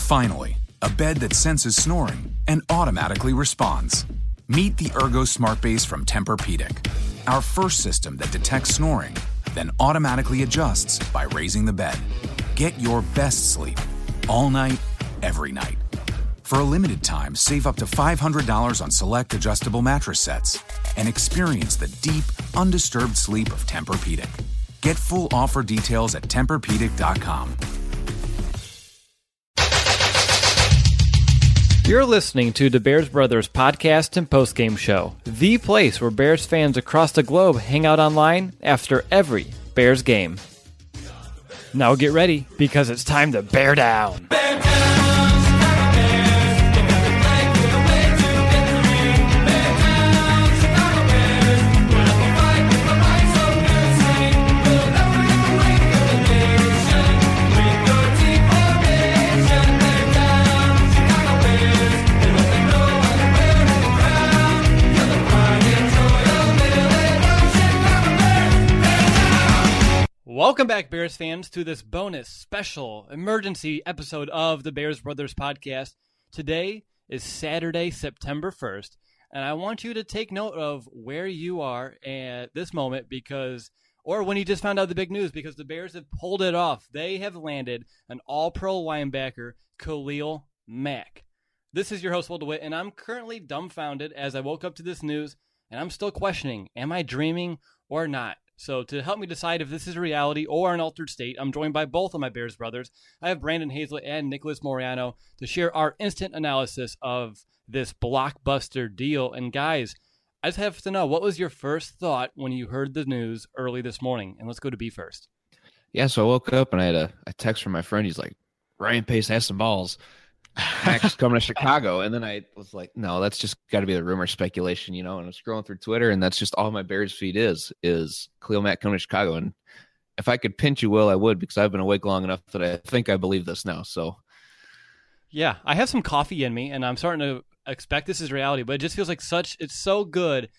Finally, a bed that senses snoring and automatically responds. Meet the Ergo Smart Base from Tempur-Pedic, our first system that detects snoring, then automatically adjusts by raising the bed. Get your best sleep all night, every night. For a limited time, save up to $500 on select adjustable mattress sets and experience the deep, undisturbed sleep of Tempur-Pedic. Get full offer details at TempurPedic.com. You're listening to the Bears Brothers podcast and postgame show, the place where Bears fans across the globe hang out online after every Bears game. Now get ready, because it's time to bear down. Welcome back, Bears fans, to this bonus special emergency episode of the Bears Brothers podcast. Today is Saturday, September 1st, and I want you to take note of where you are at this moment or when you just found out the big news, because the Bears have pulled it off. They have landed an all-pro linebacker, Khalil Mack. This is your host, Will DeWitt, and I'm currently dumbfounded as I woke up to this news, and I'm still questioning, am I dreaming or not? So to help me decide if this is reality or an altered state, I'm joined by both of my Bears brothers. I have Brandon Hazlett and Nicholas Moriano to share our instant analysis of this blockbuster deal. And guys, I just have to know, what was your first thought when you heard the news early this morning? And let's go to B first. Yeah, so I woke up and I had a text from my friend. He's like, Ryan Pace has some balls. Max coming to Chicago. And then I was like, no, that's just got to be the rumor speculation, and I'm scrolling through Twitter, and that's just all my Bears feed is Khalil Mack coming to Chicago. And if I could pinch you, Will, I would, because I've been awake long enough that I think I believe this now. So yeah, I have some coffee in me, and I'm starting to expect this is reality, but it just feels like it's so good.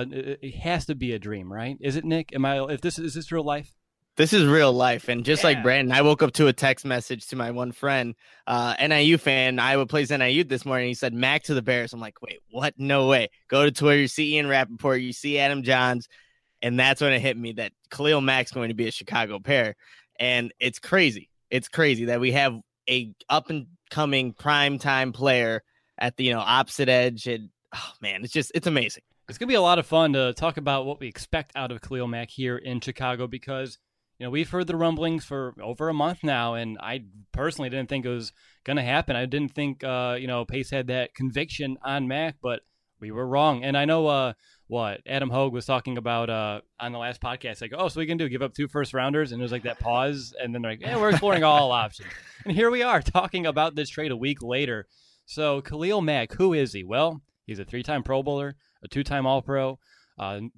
It has to be a dream, right? Is it, Nick? Is this real life? This is real life. And just like Brandon, I woke up to a text message to my one friend, NIU fan, Iowa plays NIU this morning. He said, Mack to the Bears. I'm like, wait, what? No way. Go to Twitter, you see Ian Rappaport, you see Adam Johns. And that's when it hit me that Khalil Mack's going to be a Chicago Bear. And it's crazy. It's crazy that we have a up and coming primetime player at the opposite edge. And oh man, it's amazing. It's going to be a lot of fun to talk about what we expect out of Khalil Mack here in Chicago, because we've heard the rumblings for over a month now, and I personally didn't think it was going to happen. I didn't think, Pace had that conviction on Mack, but we were wrong. And I know what Adam Hogue was talking about on the last podcast, like, so we can give up 2 first-rounders, and there's like that pause, and then they're like, we're exploring all options. And here we are talking about this trade a week later. So Khalil Mack, who is he? Well, he's a 3-time Pro Bowler, a 2-time All-Pro, the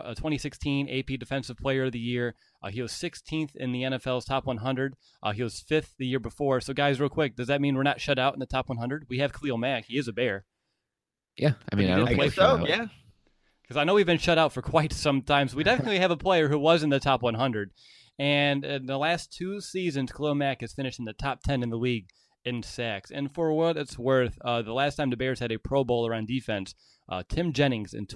2016 AP Defensive Player of the Year. He was 16th in the NFL's top 100. He was 5th the year before. So, guys, real quick, does that mean we're not shut out in the top 100? We have Khalil Mack. He is a Bear. Yeah, I don't think so. Yeah, because I know we've been shut out for quite some time. So we definitely have a player who was in the top 100. And in the last 2 seasons, Khalil Mack has finished in the top 10 in the league in sacks. And for what it's worth, the last time the Bears had a Pro Bowler on defense, Tim Jennings in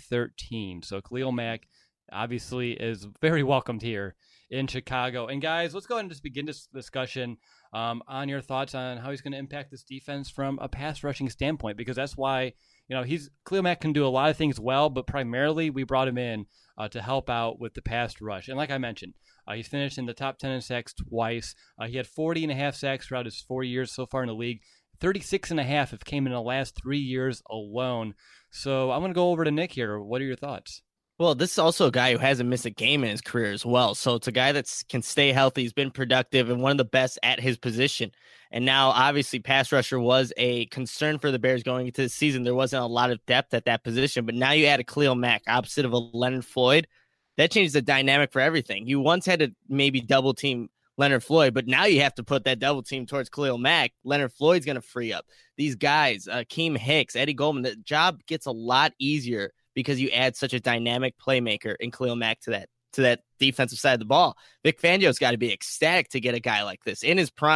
2013. So Khalil Mack obviously is very welcomed here in Chicago. And guys, let's go ahead and just begin this discussion on your thoughts on how he's going to impact this defense from a pass rushing standpoint, because that's why, Khalil Mack can do a lot of things well, but primarily we brought him in to help out with the pass rush. And like I mentioned, he's finished in the top 10 in sacks twice. He had 40.5 sacks throughout his 4 years so far in the league. 36.5 have came in the last 3 years alone. So I'm going to go over to Nick here. What are your thoughts? Well, this is also a guy who hasn't missed a game in his career as well. So it's a guy that can stay healthy. He's been productive and one of the best at his position. And now, obviously, pass rusher was a concern for the Bears going into the season. There wasn't a lot of depth at that position. But now you add a Khalil Mack opposite of a Leonard Floyd. That changes the dynamic for everything. You once had to maybe double team Leonard Floyd, but now you have to put that double team towards Khalil Mack. Leonard Floyd's going to free up these guys, Akeem Hicks, Eddie Goldman. The job gets a lot easier because you add such a dynamic playmaker in Khalil Mack to that defensive side of the ball. Vic Fangio's got to be ecstatic to get a guy like this in his prime.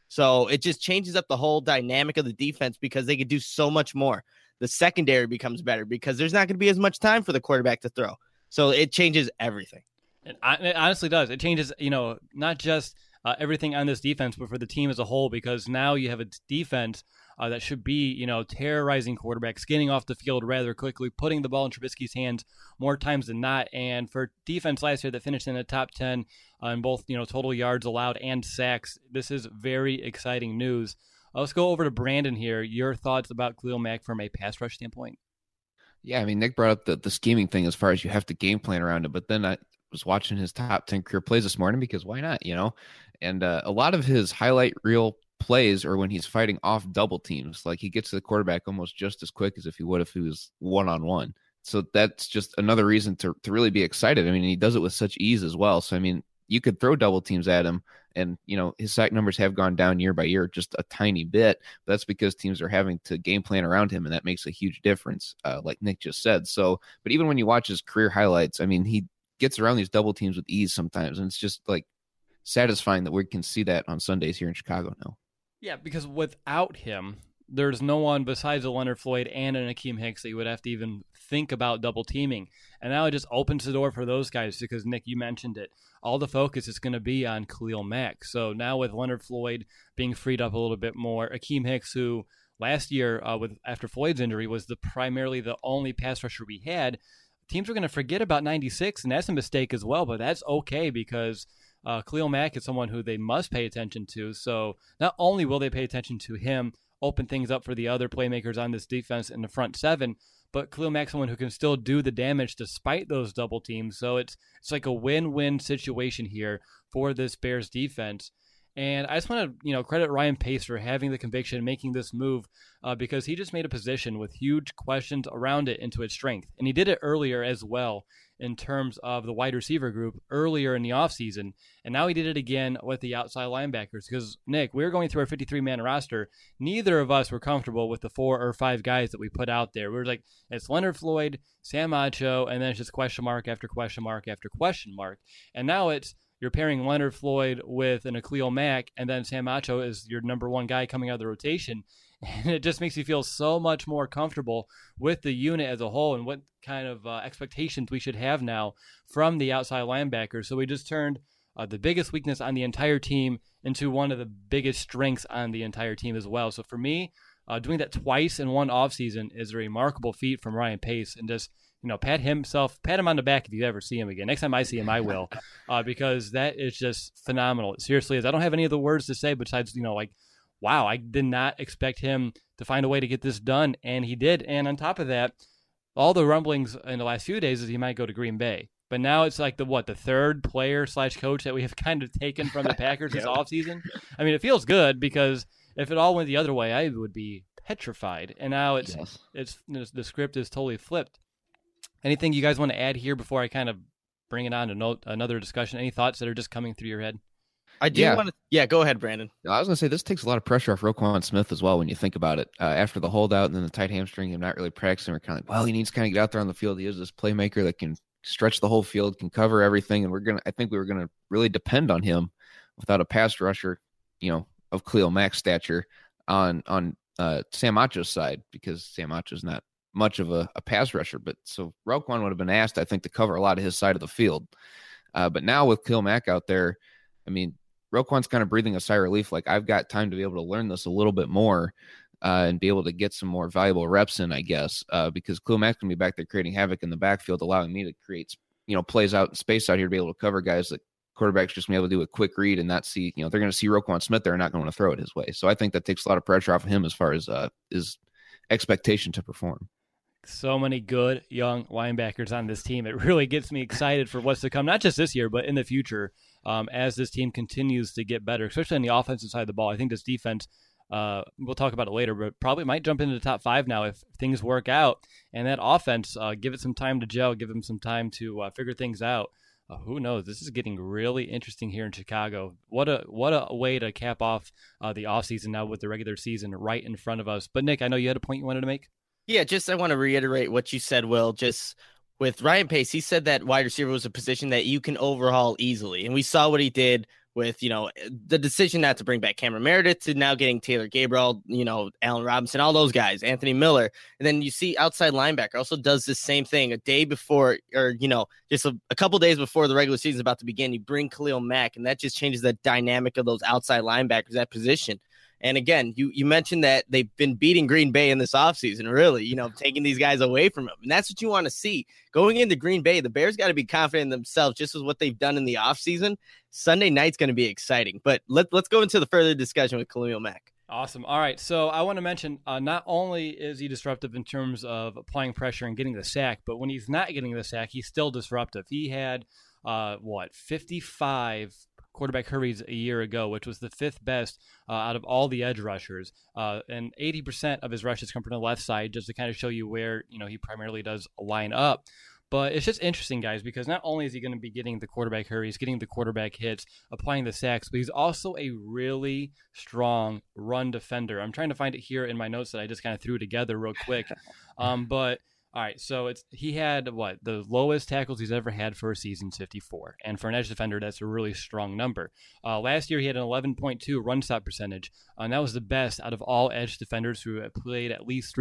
So it just changes up the whole dynamic of the defense because they could do so much more. The secondary becomes better because there's not going to be as much time for the quarterback to throw. So it changes everything. It honestly does. It changes, not just everything on this defense, but for the team as a whole, because now you have a defense that should be, terrorizing quarterbacks, getting off the field rather quickly, putting the ball in Trubisky's hands more times than not. And for defense last year that finished in the top 10 in both, total yards allowed and sacks, this is very exciting news. Let's go over to Brandon here. Your thoughts about Khalil Mack from a pass rush standpoint? Yeah, I mean, Nick brought up the scheming thing as far as you have to game plan around it, but then I was watching his top 10 career plays this morning because why not, And a lot of his highlight reel plays are when he's fighting off double teams. Like he gets to the quarterback almost just as quick as if he would if he was one-on-one. So that's just another reason to really be excited. I mean, he does it with such ease as well. So, I mean, you could throw double teams at him and, his sack numbers have gone down year by year, just a tiny bit. But that's because teams are having to game plan around him, and that makes a huge difference, like Nick just said. So, but even when you watch his career highlights, I mean, he gets around these double teams with ease sometimes. And it's just like satisfying that we can see that on Sundays here in Chicago now. Yeah, because without him, there's no one besides a Leonard Floyd and an Akeem Hicks that you would have to even think about double teaming. And now it just opens the door for those guys because, Nick, you mentioned it. All the focus is going to be on Khalil Mack. So now with Leonard Floyd being freed up a little bit more, Akeem Hicks, who last year after Floyd's injury was primarily the only pass rusher we had, teams are going to forget about 96, and that's a mistake as well, but that's okay because Khalil Mack is someone who they must pay attention to. So not only will they pay attention to him, open things up for the other playmakers on this defense in the front seven, but Khalil Mack's someone who can still do the damage despite those double teams. So it's like a win-win situation here for this Bears defense. And I just want to, credit Ryan Pace for having the conviction, making this move, because he just made a position with huge questions around it into its strength. And he did it earlier as well in terms of the wide receiver group earlier in the offseason. And now he did it again with the outside linebackers. Because, Nick, we were going through our 53-man roster. Neither of us were comfortable with the 4 or 5 guys that we put out there. We were like, it's Leonard Floyd, Sam Acho, and then it's just question mark after question mark after question mark. And now you're pairing Leonard Floyd with an Khalil Mack, and then Sam Acho is your number one guy coming out of the rotation. And it just makes you feel so much more comfortable with the unit as a whole and what kind of expectations we should have now from the outside linebackers. So we just turned the biggest weakness on the entire team into one of the biggest strengths on the entire team as well. So for me, doing that twice in one offseason is a remarkable feat from Ryan Pace, and just pat him on the back if you ever see him again. Next time I see him, I will, because that is just phenomenal. It seriously is. I don't have any other words to say besides, wow, I did not expect him to find a way to get this done, and he did. And on top of that, all the rumblings in the last few days is he might go to Green Bay. But now it's like the third player / coach that we have kind of taken from the Packers this offseason. I mean, it feels good because if it all went the other way, I would be petrified. And now it's the script is totally flipped. Anything you guys want to add here before I kind of bring it on to another discussion? Any thoughts that are just coming through your head? I do want to. Yeah, go ahead, Brandon. I was going to say this takes a lot of pressure off Roquan Smith as well when you think about it. After the holdout and then the tight hamstring, him not really practicing, we're kind of like, well, he needs to kind of get out there on the field. He is this playmaker that can stretch the whole field, can cover everything, and I think we were going to really depend on him without a pass rusher, of Khalil Mack's stature on Sam Acho's side, because Sam Acho's not much of a pass rusher. But so Roquan would have been asked, I think, to cover a lot of his side of the field. But now with Khalil Mack out there, I mean, Roquan's kind of breathing a sigh of relief. Like, I've got time to be able to learn this a little bit more and be able to get some more valuable reps in, I guess, because Khalil Mack's going to be back there creating havoc in the backfield, allowing me to create, plays out in space out here to be able to cover guys that quarterbacks just going to be able to do a quick read and not see, they're going to see Roquan Smith there and not going to throw it his way. So I think that takes a lot of pressure off of him as far as his expectation to perform. So many good young linebackers on this team. It really gets me excited for what's to come, not just this year, but in the future, as this team continues to get better, especially on the offensive side of the ball. I think this defense, we'll talk about it later, but probably might jump into the top 5 now if things work out. And that offense, give it some time to gel, give them some time to figure things out. Who knows? This is getting really interesting here in Chicago. What a way to cap off the offseason now with the regular season right in front of us. But Nick, I know you had a point you wanted to make. Yeah, I want to reiterate what you said, Will. Just with Ryan Pace, he said that wide receiver was a position that you can overhaul easily. And we saw what he did with, the decision not to bring back Cameron Meredith to now getting Taylor Gabriel, Allen Robinson, all those guys, Anthony Miller. And then you see outside linebacker also does the same thing a day before, or, just a couple days before the regular season is about to begin. You bring Khalil Mack, and that just changes the dynamic of those outside linebackers, that position. And again, you mentioned that they've been beating Green Bay in this offseason, really, taking these guys away from them. And that's what you want to see. Going into Green Bay, the Bears got to be confident in themselves, just as what they've done in the offseason. Sunday night's going to be exciting. But let's go into the further discussion with Khalil Mack. Awesome. All right. So I want to mention not only is he disruptive in terms of applying pressure and getting the sack, but when he's not getting the sack, he's still disruptive. He had, 55 quarterback hurries a year ago, which was the fifth best out of all the edge rushers. And 80% of his rushes come from the left side, just to kind of show you where, he primarily does line up. But it's just interesting, guys, because not only is he going to be getting the quarterback hurries, getting the quarterback hits, applying the sacks, but he's also a really strong run defender. I'm trying to find it here in my notes that I just kind of threw together real quick. But all right, so he had the lowest tackles he's ever had for a season, 54, and for an edge defender, that's a really strong number. Last year he had an 11.2 run stop percentage, and that was the best out of all edge defenders who have played at least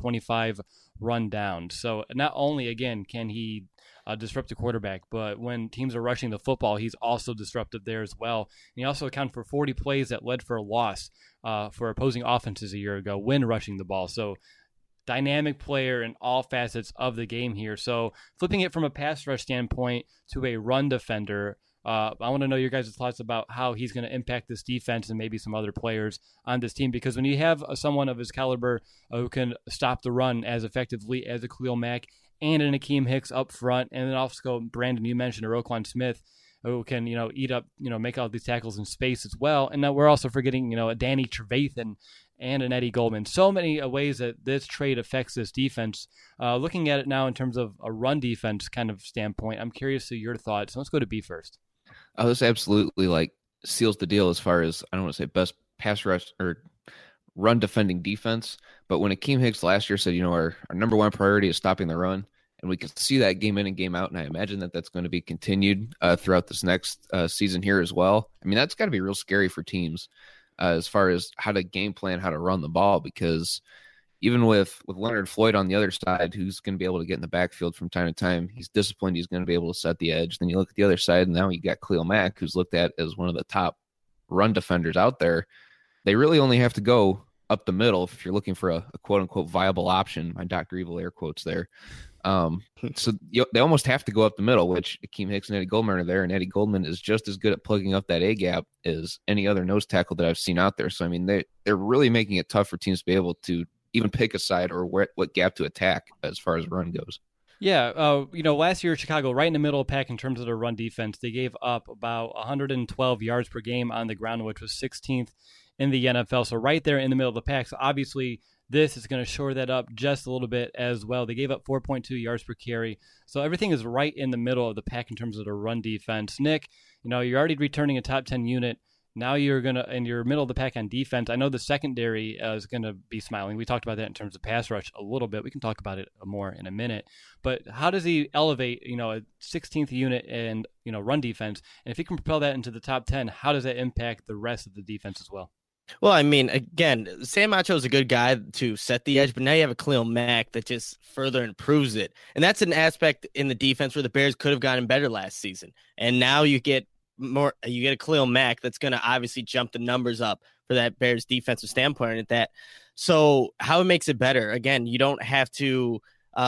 325 run downs. So not only again can he disrupt the quarterback, but when teams are rushing the football, he's also disruptive there as well. And he also accounted for 40 plays that led for a loss for opposing offenses a year ago when rushing the ball. So dynamic player in all facets of the game here. So flipping it from a pass rush standpoint to a run defender, I want to know your guys' thoughts about how he's going to impact this defense and maybe some other players on this team. Because when you have someone of his caliber who can stop the run as effectively as a Khalil Mack and an Akeem Hicks up front, and then also Brandon, you mentioned a Roquan Smith who can, eat up, make all these tackles in space as well. And now we're also forgetting, a Danny Trevathan and an Eddie Goldman. So many ways that this trade affects this defense. Looking at it now in terms of a run defense kind of standpoint, I'm curious to your thoughts. So let's go to B first. Oh, this absolutely seals the deal as far as, I don't want to say best pass rush or run defending defense, but when Akeem Hicks last year said, our number one priority is stopping the run, and we can see that game in and game out, and I imagine that that's going to be continued throughout this next season here as well. I mean, that's got to be real scary for teams as far as how to game plan, how to run the ball, because even with Leonard Floyd on the other side, who's going to be able to get in the backfield from time to time, he's disciplined, he's going to be able to set the edge. Then you look at the other side, and now you got Khalil Mack, who's looked at as one of the top run defenders out there. They really only have to go up the middle if you're looking for a quote-unquote viable option. My Dr. Evil air quotes there. So they almost have to go up the middle, which Akeem Hicks and Eddie Goldman are there, and Eddie Goldman is just as good at plugging up that A-gap as any other nose tackle that I've seen out there. So, I mean, they're really making it tough for teams to be able to even pick a side or what gap to attack as far as run goes. Yeah, last year Chicago, right in the middle of the pack in terms of their run defense, they gave up about 112 yards per game on the ground, which was 16th in the NFL. So right there in the middle of the pack. So obviously this is going to shore that up just a little bit as well. They gave up 4.2 yards per carry. So everything is right in the middle of the pack in terms of the run defense. Nick, you're already returning a top 10 unit. Now you're going to, in your middle of the pack on defense, I know the secondary is going to be smiling. We talked about that in terms of pass rush a little bit. We can talk about it more in a minute. But how does he elevate, a 16th unit and, run defense? And if he can propel that into the top 10, how does that impact the rest of the defense as well? Well, I mean, again, Sam Acho is a good guy to set the edge, but now you have a Khalil Mack that just further improves it. And that's an aspect in the defense where the Bears could have gotten better last season. And now you get a Khalil Mack that's going to obviously jump the numbers up for that Bears defensive standpoint at that. So how it makes it better, again, you don't have to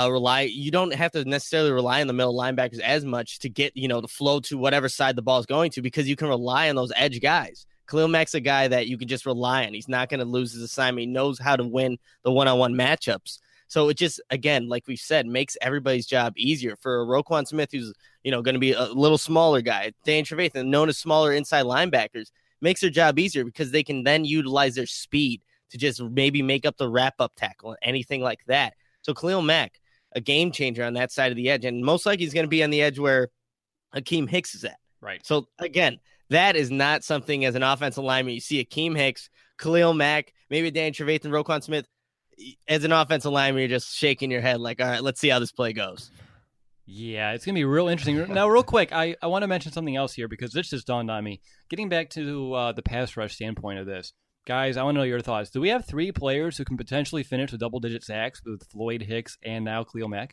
necessarily rely on the middle linebackers as much to get, the flow to whatever side the ball is going to, because you can rely on those edge guys. Khalil Mack's a guy that you can just rely on. He's not going to lose his assignment. He knows how to win the one-on-one matchups. So it just, again, like we've said, makes everybody's job easier. For Roquan Smith, who's, going to be a little smaller guy, Danny Trevathan, known as smaller inside linebackers, makes their job easier because they can then utilize their speed to just maybe make up the wrap-up tackle, anything like that. So Khalil Mack, a game changer on that side of the edge, and most likely he's going to be on the edge where Akeem Hicks is at. Right. So, again, that is not something as an offensive lineman. You see Akeem Hicks, Khalil Mack, maybe Danny Trevathan, Roquan Smith. As an offensive lineman, you're just shaking your head like, all right, let's see how this play goes. Yeah, it's going to be real interesting. Now, real quick, I want to mention something else here because this just dawned on me. Getting back to the pass rush standpoint of this, guys, I want to know your thoughts. Do we have 3 players who can potentially finish with double-digit sacks with Floyd, Hicks, and now Khalil Mack?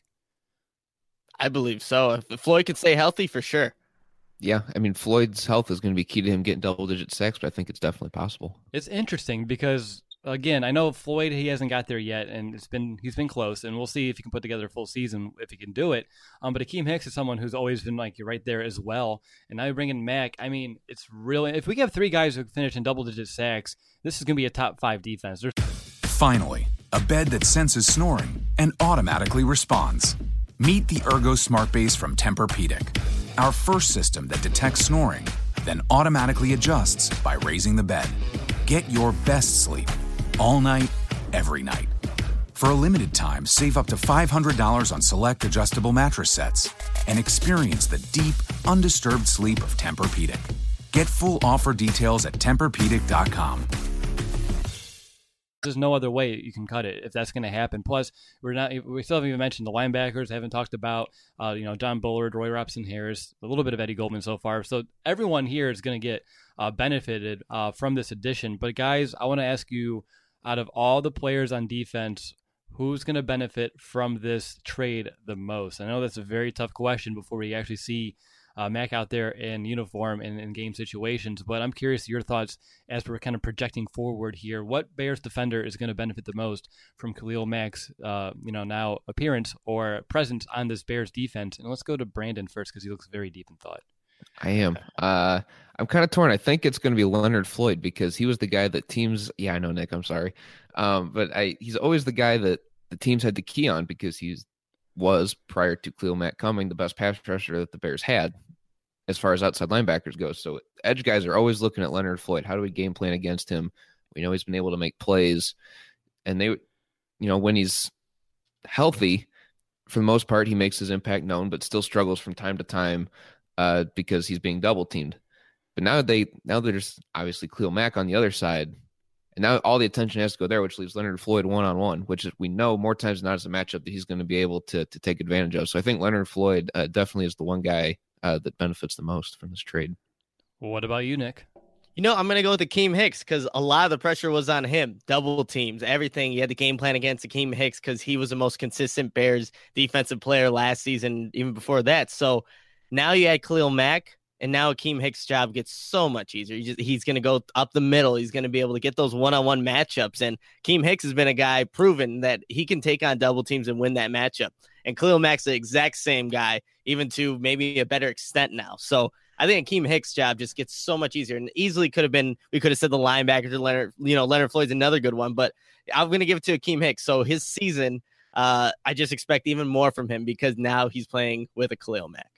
I believe so. If Floyd could stay healthy, for sure. Yeah, I mean, Floyd's health is going to be key to him getting double-digit sacks, but I think it's definitely possible. It's interesting because, again, I know Floyd, he hasn't got there yet, and he's been close, and we'll see if he can put together a full season, if he can do it. But Akeem Hicks is someone who's always been like right there as well, and now you bring in Mack. I mean, it's really, if we have 3 guys who finish in double-digit sacks, this is going to be a top 5 defense. Finally, a bed that senses snoring and automatically responds. Meet the Ergo Smart Base from Tempur-Pedic, our first system that detects snoring, then automatically adjusts by raising the bed. Get your best sleep all night, every night. For a limited time, save up to $500 on select adjustable mattress sets and experience the deep, undisturbed sleep of Tempur-Pedic. Get full offer details at TempurPedic.com. There's no other way you can cut it if that's going to happen. Plus, we still haven't even mentioned the linebackers. Haven't talked about John Bullard, Roy Robson-Harris, a little bit of Eddie Goldman so far. So everyone here is going to get benefited from this addition. But guys, I want to ask you, out of all the players on defense, who's going to benefit from this trade the most? I know that's a very tough question before we actually see Mack out there in uniform and in game situations, but I'm curious your thoughts as we're kind of projecting forward here. What Bears defender is going to benefit the most from Khalil Mack's now appearance or presence on this Bears defense? And let's go to Brandon first because he looks very deep in thought. I am. I'm kind of torn. I think it's going to be Leonard Floyd because he was the guy that teams. Yeah, I know, Nick. I'm sorry, but he's always the guy that the teams had to key on because was prior to Khalil Mack coming the best pass rusher that the Bears had as far as outside linebackers go. So edge guys are always looking at Leonard Floyd. How do we game plan against him? We know he's been able to make plays, and when he's healthy, for the most part, he makes his impact known, but still struggles from time to time because he's being double teamed. But now there's obviously Khalil Mack on the other side, and now all the attention has to go there, which leaves Leonard Floyd one-on-one, which we know more times than not is a matchup that he's going to be able to take advantage of. So I think Leonard Floyd definitely is the one guy that benefits the most from this trade. Well, what about you, Nick? I'm going to go with Akeem Hicks because a lot of the pressure was on him. Double teams, everything. You had the game plan against Akeem Hicks because he was the most consistent Bears defensive player last season, even before that. So now you add Khalil Mack, and now Akeem Hicks' job gets so much easier. He's going to go up the middle. He's going to be able to get those one-on-one matchups. And Akeem Hicks has been a guy proven that he can take on double teams and win that matchup. And Khalil Mack's the exact same guy, even to maybe a better extent now. So I think Akeem Hicks' job just gets so much easier, and easily we could have said the linebackers or Leonard Floyd's another good one, but I'm going to give it to Akeem Hicks. So his season, I just expect even more from him because now he's playing with a Khalil Mack.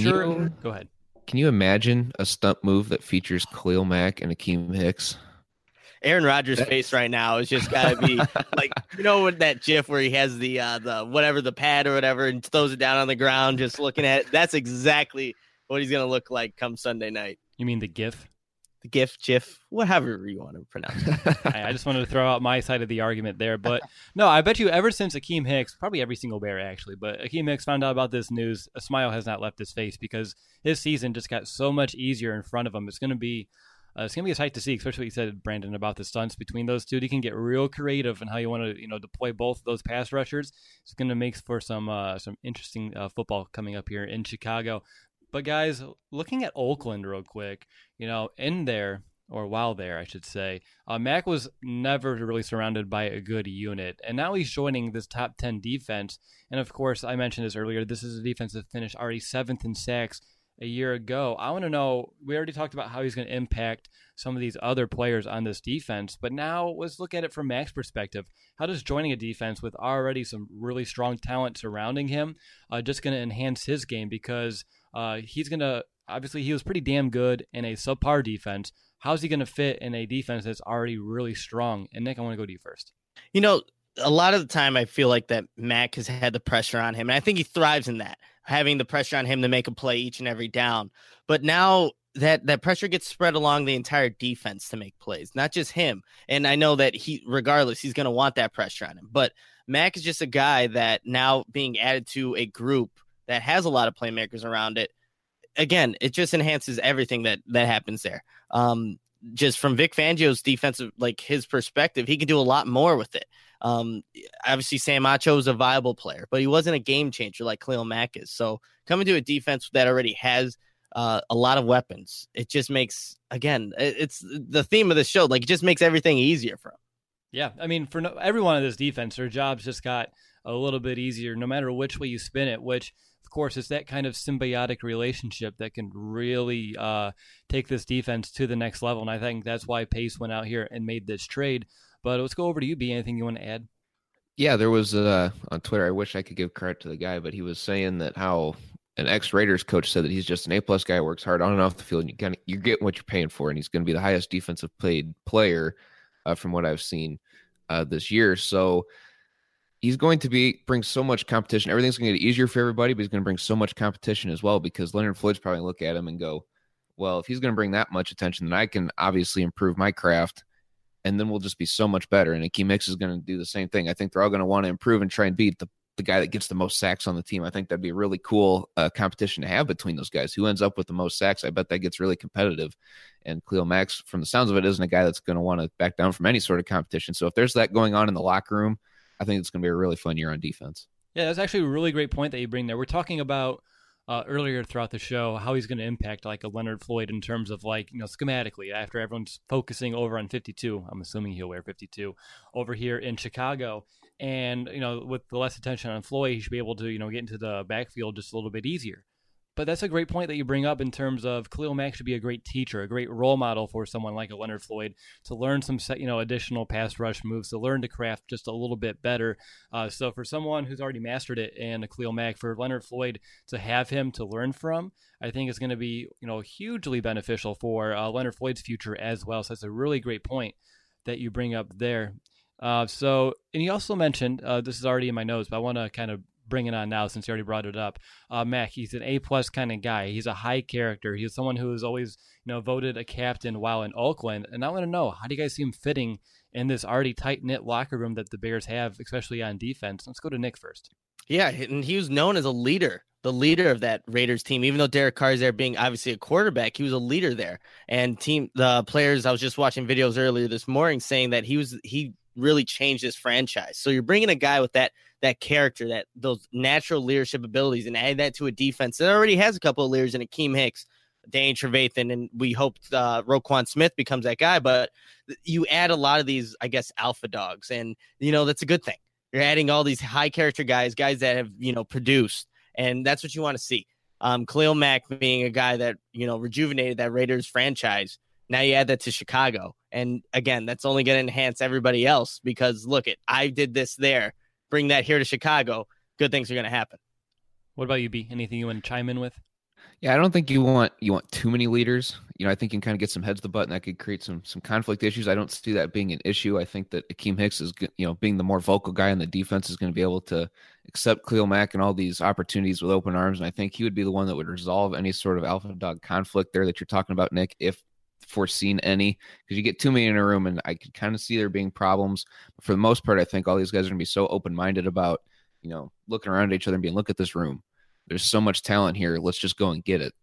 Go ahead. Can you imagine a stunt move that features Khalil Mack and Akeem Hicks? Aaron Rodgers' face right now is just got to be like, with that GIF where he has the pad or whatever and throws it down on the ground, just looking at it. That's exactly what he's going to look like come Sunday night. You mean the GIF? The GIF, whatever you want to pronounce it. I just wanted to throw out my side of the argument there. But no, I bet you ever since Akeem Hicks, probably every single Bear actually, but Akeem Hicks found out about this news, a smile has not left his face because his season just got so much easier in front of him. It's going to be a sight to see, especially what you said, Brandon, about the stunts between those two. You can get real creative in how you want to, deploy both those pass rushers. It's going to make for some interesting football coming up here in Chicago. But guys, looking at Oakland real quick, in there, or while there, I should say, Mack was never really surrounded by a good unit. And now he's joining this top 10 defense. And of course, I mentioned this earlier, this is a defense that finished already 7th in sacks a year ago. I want to know, we already talked about how he's going to impact some of these other players on this defense, but now let's look at it from Mack's perspective. How does joining a defense with already some really strong talent surrounding him just going to enhance his game? Because he's going to, obviously he was pretty damn good in a subpar defense. How's he going to fit in a defense that's already really strong? And Nick, I want to go to you first. A lot of the time I feel like that Mack has had the pressure on him, and I think he thrives in that, having the pressure on him to make a play each and every down. But now that pressure gets spread along the entire defense to make plays, not just him. And I know that regardless, he's going to want that pressure on him. But Mack is just a guy that now being added to a group that has a lot of playmakers around it, again, it just enhances everything that happens there. Just from Vic Fangio's defensive, like his perspective, he can do a lot more with it. Obviously, Sam Acho is a viable player, but he wasn't a game changer like Khalil Mack is. So coming to a defense that already has a lot of weapons, it just makes, again, it's the theme of the show. Like, it just makes everything easier for him. Yeah, I mean, for everyone on this defense, their jobs just got a little bit easier, no matter which way you spin it, which, of course, it's that kind of symbiotic relationship that can really take this defense to the next level. And I think that's why Pace went out here and made this trade. But let's go over to you, B. Anything you want to add? Yeah, there was on Twitter, I wish I could give credit to the guy, but he was saying that how an ex-Raiders coach said that he's just an A-plus guy, works hard on and off the field, and you're getting what you're paying for, and he's going to be the highest defensive paid player from what I've seen this year. So he's going to bring so much competition. Everything's going to get easier for everybody, but he's going to bring so much competition as well, because Leonard Floyd's probably look at him and go, well, if he's going to bring that much attention, then I can obviously improve my craft, and then we'll just be so much better. And Akeem Hicks is going to do the same thing. I think they're all going to want to improve and try and beat the guy that gets the most sacks on the team. I think that'd be a really cool competition to have between those guys. Who ends up with the most sacks? I bet that gets really competitive. And Khalil Mack, from the sounds of it, isn't a guy that's going to want to back down from any sort of competition. So if there's that going on in the locker room, I think it's going to be a really fun year on defense. Yeah, that's actually a really great point that you bring there. We're talking about earlier throughout the show how he's going to impact like a Leonard Floyd in terms of like, schematically, after everyone's focusing over on 52. I'm assuming he'll wear 52 over here in Chicago. And, with the less attention on Floyd, he should be able to, get into the backfield just a little bit easier. But that's a great point that you bring up in terms of Khalil Mack should be a great teacher, a great role model for someone like a Leonard Floyd to learn some, additional pass rush moves, to learn to craft just a little bit better. So for someone who's already mastered it and a Khalil Mack, for Leonard Floyd to have him to learn from, I think it's going to be, hugely beneficial for Leonard Floyd's future as well. So that's a really great point that you bring up there. And you also mentioned, this is already in my notes, but I want to kind of bring it on now since you already brought it up. Mack, he's an A-plus kind of guy. He's a high character. He's someone who is always, voted a captain while in Oakland. And I want to know, how do you guys see him fitting in this already tight-knit locker room that the Bears have, especially on defense? Let's go to Nick first. Yeah, and he was known as a leader, the leader of that Raiders team. Even though Derek Carr is there being obviously a quarterback, he was a leader there. And the players, I was just watching videos earlier this morning saying that he really changed this franchise. So you're bringing a guy with that character, those natural leadership abilities, and add that to a defense that already has a couple of leaders in Akeem Hicks, Danny Trevathan, and we hope Roquan Smith becomes that guy. But you add a lot of these, I guess, alpha dogs, and that's a good thing. You're adding all these high character guys that have produced, and that's what you want to see. Khalil Mack being a guy that rejuvenated that Raiders franchise. Now you add that to Chicago, and again, that's only going to enhance everybody else, because look, I did this there. Bring that here to Chicago, good things are going to happen. What about you, B? Anything you want to chime in with? Yeah, I don't think you want too many leaders. I think you can kind of get some heads to butt, and that could create some conflict issues. I don't see that being an issue. I think that Akeem Hicks is, being the more vocal guy in the defense, is going to be able to accept Khalil Mack and all these opportunities with open arms, and I think he would be the one that would resolve any sort of alpha dog conflict there that you're talking about, Nick, if foreseen any, because you get too many in a room, and I could kind of see there being problems. But for the most part, I think all these guys are going to be so open-minded about, looking around at each other and being, look at this room. There's so much talent here. Let's just go and get it.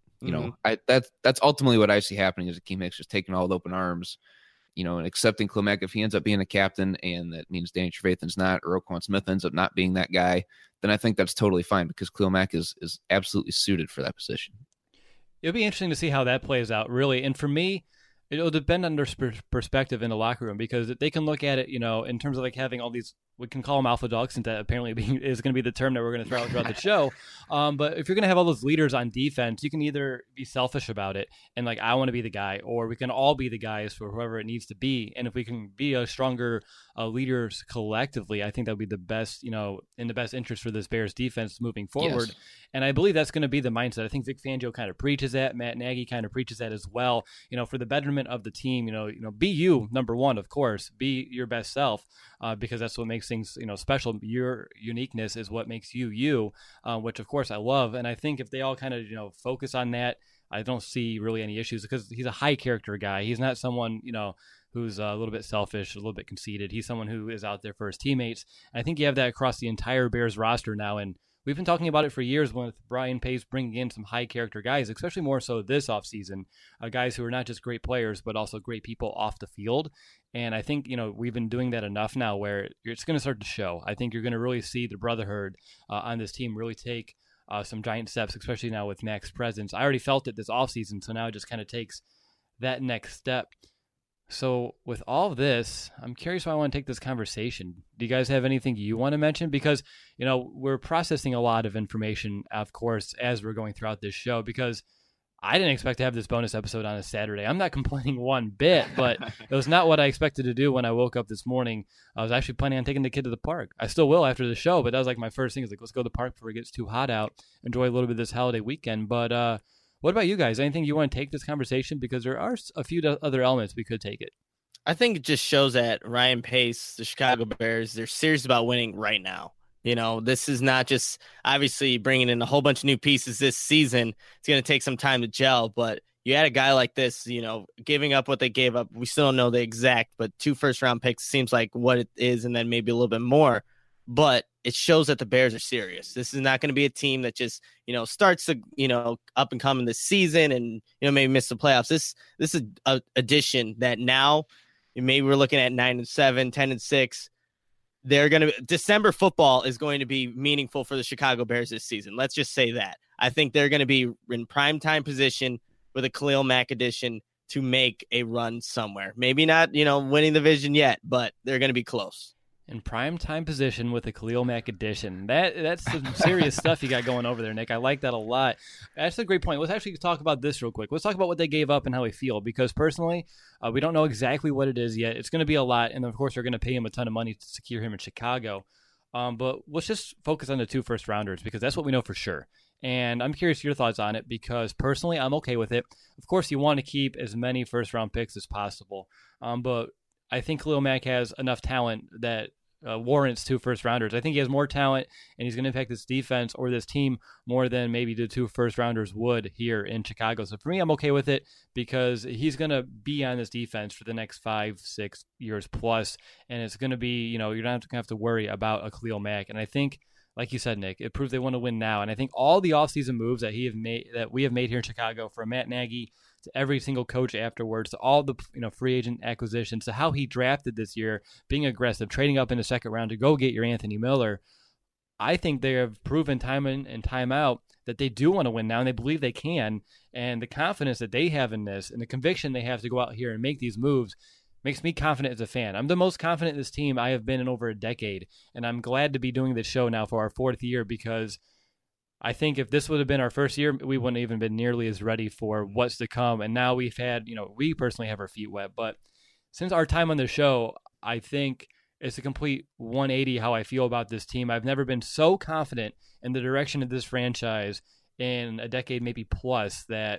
That's ultimately what I see happening, is Akeem Hicks just taking all the open arms, and accepting Khalil Mack. If he ends up being a captain, and that means Danny Trevathan's not, or Roquan Smith ends up not being that guy, then I think that's totally fine, because Khalil Mack is absolutely suited for that position. It'll be interesting to see how that plays out, really. And for me, it'll depend on their perspective in the locker room, because they can look at it, in terms of like having all these, we can call them alpha dogs, since that apparently is going to be the term that we're going to throw out throughout the show. But if you're going to have all those leaders on defense, you can either be selfish about it and like, I want to be the guy, or we can all be the guys for whoever it needs to be. And if we can be a stronger leaders collectively, I think that would be the best, in the best interest for this Bears defense moving forward. Yes. And I believe that's going to be the mindset. I think Vic Fangio kind of preaches that. Matt Nagy kind of preaches that as well. For the betterment of the team, be you, number one, of course, be your best self, because that's what makes things, special. Your uniqueness is what makes you, which of course I love. And I think if they all kind of, focus on that, I don't see really any issues, because he's a high character guy. He's not someone, who's a little bit selfish, a little bit conceited. He's someone who is out there for his teammates. And I think you have that across the entire Bears roster now. And we've been talking about it for years with Ryan Pace bringing in some high character guys, especially more so this offseason, guys who are not just great players, but also great people off the field. And I think, we've been doing that enough now where it's going to start to show. I think you're going to really see the brotherhood on this team really take some giant steps, especially now with Mac's presence. I already felt it this offseason, so now it just kind of takes that next step. So with all of this, I'm curious why I want to take this conversation. Do you guys have anything you want to mention? Because, we're processing a lot of information, of course, as we're going throughout this show, because I didn't expect to have this bonus episode on a Saturday. I'm not complaining one bit, but it was not what I expected to do when I woke up this morning. I was actually planning on taking the kid to the park. I still will after the show, but that was like my first thing is like, let's go to the park before it gets too hot out, enjoy a little bit of this holiday weekend. But what about you guys? Anything you want to take this conversation? Because there are a few other elements we could take it. I think it just shows that Ryan Pace, the Chicago Bears, they're serious about winning right now. This is not just obviously bringing in a whole bunch of new pieces this season. It's going to take some time to gel, but you had a guy like this, giving up what they gave up. We still don't know the exact, but 2 first-round picks seems like what it is, and then maybe a little bit more. But it shows that the Bears are serious. This is not going to be a team that just, starts to, up and coming this season and, maybe miss the playoffs. This is an addition that now maybe we're looking at 9-7, 10-6. They're going to December football is going to be meaningful for the Chicago Bears this season. Let's just say that. I think they're going to be in primetime position with a Khalil Mack addition to make a run somewhere. Maybe not, winning the division yet, but they're going to be close. In prime time position with a Khalil Mack addition. That's some serious stuff you got going over there, Nick. I like that a lot. That's a great point. Let's actually talk about this real quick. Let's talk about what they gave up and how we feel, because personally, we don't know exactly what it is yet. It's going to be a lot, and of course, they're going to pay him a ton of money to secure him in Chicago. But let's just focus on the 2 first-rounders, because that's what we know for sure. And I'm curious your thoughts on it, because personally, I'm okay with it. Of course, you want to keep as many first-round picks as possible, but I think Khalil Mack has enough talent that warrants 2 first-rounders. I think he has more talent, and he's going to impact this defense or this team more than maybe the 2 first-rounders would here in Chicago. So for me, I'm okay with it because he's going to be on this defense for the next 5-6 years plus, and it's going to be, you're not going to have to worry about a Khalil Mack. And I think, like you said, Nick, it proves they want to win now. And I think all the offseason moves that we have made here in Chicago, from Matt Nagy to every single coach afterwards, to all the free agent acquisitions, to how he drafted this year, being aggressive, trading up in the second round to go get your Anthony Miller, I think they have proven time in and time out that they do want to win now, and they believe they can. And the confidence that they have in this and the conviction they have to go out here and make these moves makes me confident as a fan. I'm the most confident in this team I have been in over a decade, and I'm glad to be doing this show now for our 4th year, because I think if this would have been our first year, we wouldn't even been nearly as ready for what's to come. And now we've had, we personally have our feet wet. But since our time on the show, I think it's a complete 180 how I feel about this team. I've never been so confident in the direction of this franchise in a decade, maybe plus, that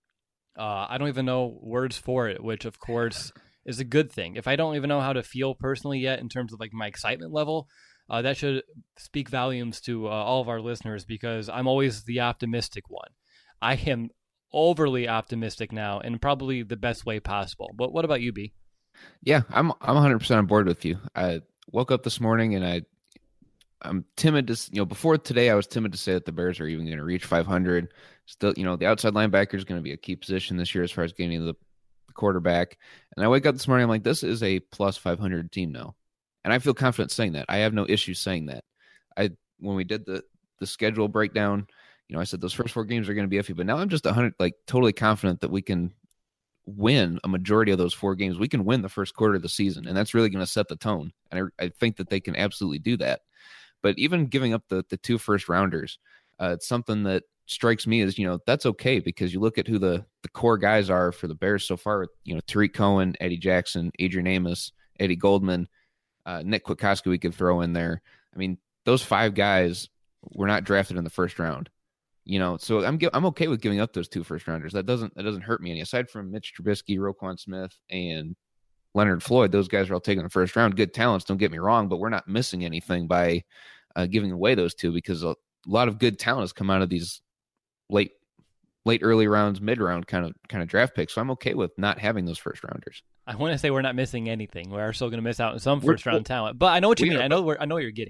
I don't even know words for it, which of course is a good thing. If I don't even know how to feel personally yet in terms of like my excitement level, that should speak volumes to all of our listeners, because I'm always the optimistic one. I am overly optimistic now, in probably the best way possible. But what about you, B? Yeah, I'm 100% on board with you. I woke up this morning and I'm timid to, before today, I was timid to say that the Bears are even going to reach 500. Still, the outside linebacker is going to be a key position this year as far as getting the quarterback. And I wake up this morning, I'm like, this is a plus 500 team now. And I feel confident saying that. I have no issue saying that. When we did the schedule breakdown, I said those first 4 games are going to be iffy, but now I'm just totally confident that we can win a majority of those 4 games. We can win the first quarter of the season, and that's really going to set the tone. And I think that they can absolutely do that. But even giving up the 2 first-rounders, it's something that strikes me as, that's okay, because you look at who the core guys are for the Bears so far, with, Tariq Cohen, Eddie Jackson, Adrian Amos, Eddie Goldman, Nick Kwiatkowski we could throw in there. I mean, those 5 guys were not drafted in the first round. So I'm okay with giving up those 2 first-rounders. That doesn't hurt me any. Aside from Mitch Trubisky, Roquan Smith, and Leonard Floyd, those guys are all taken in the first round. Good talents, don't get me wrong, but we're not missing anything by giving away those 2, because a lot of good talent has come out of these late early rounds, mid-round kind of draft picks. So I'm okay with not having those first-rounders. I want to say we're not missing anything. We are still going to miss out on some first-round talent, but I know what you mean. I know what you're getting at.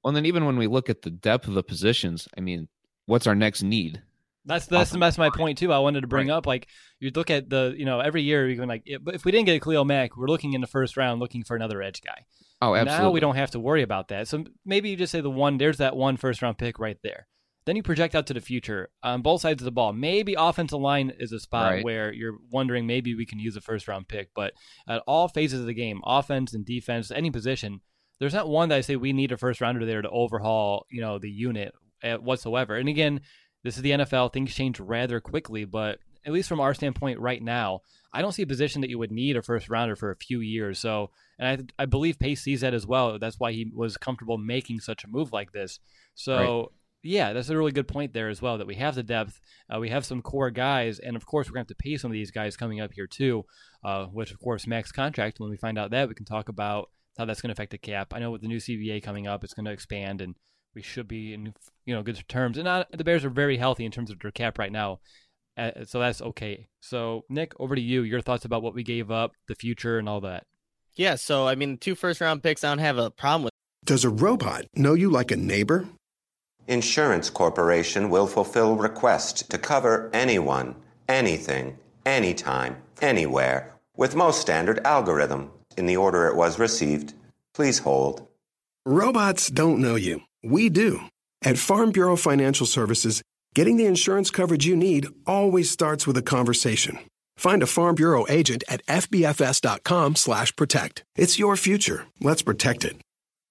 Well, and then even when we look at the depth of the positions, I mean, what's our next need? That's my point too. I wanted to bring up, like, you look at every year you can, like, if we didn't get Khalil Mack, we're looking in the first round looking for another edge guy. Oh, absolutely. Now we don't have to worry about that. So maybe you just say there's that one first round pick right there. Then you project out to the future on both sides of the ball. Maybe offensive line is a spot where you're wondering maybe we can use a first round pick, but at all phases of the game, offense and defense, any position, there's not one that I say we need a first rounder there to overhaul, the unit whatsoever. And again, this is the NFL. Things change rather quickly, but at least from our standpoint right now, I don't see a position that you would need a first rounder for a few years. So, and I believe Pace sees that as well. That's why he was comfortable making such a move like this. So, yeah, that's a really good point there as well, that we have the depth, we have some core guys, and of course we're going to have to pay some of these guys coming up here too, which of course max contract. When we find out that, we can talk about how that's going to affect the cap. I know with the new CBA coming up, it's going to expand, and we should be in good terms. And the Bears are very healthy in terms of their cap right now, so that's okay. So Nick, over to you. Your thoughts about what we gave up, the future, and all that. Yeah, so I mean, 2 first-round picks, I don't have a problem with. Does a robot know you like a neighbor? Insurance Corporation will fulfill requests to cover anyone, anything, anytime, anywhere, with most standard algorithm in the order it was received. Please hold. Robots don't know you. We do. At Farm Bureau Financial Services, getting the insurance coverage you need always starts with a conversation. Find a Farm Bureau agent at fbfs.com/protect. It's your future. Let's protect it.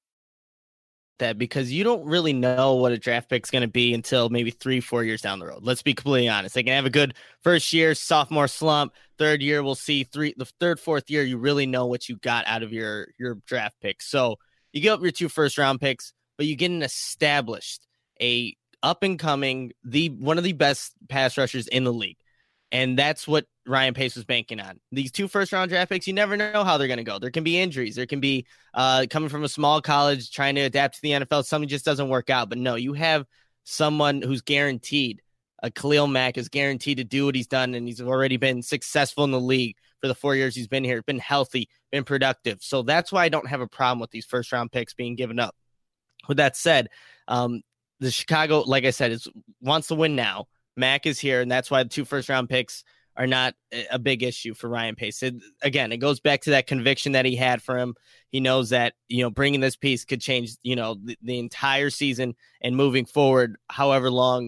That because you don't really know what a draft pick's going to be until maybe 3-4 years down the road. Let's be completely honest. They can have a good first year, sophomore slump. Third year, we'll see. The third, fourth year, you really know what you got out of your draft pick. So you give up your 2 first-round picks, but you get an established, a up-and-coming, one of the best pass rushers in the league. And that's what Ryan Pace was banking on. These 2 first-round draft picks, you never know how they're going to go. There can be injuries. There can be coming from a small college, trying to adapt to the NFL. Something just doesn't work out. But no, you have someone who's guaranteed. Khalil Mack is guaranteed to do what he's done, and he's already been successful in the league for the 4 years he's been here, been healthy, been productive. So that's why I don't have a problem with these first-round picks being given up. With that said, the Chicago, like I said, wants to win now. Mack is here, and that's why the 2 first-round picks are not a big issue for Ryan Pace. Again, it goes back to that conviction that he had for him. He knows that, bringing this piece could change, the entire season and moving forward, however long,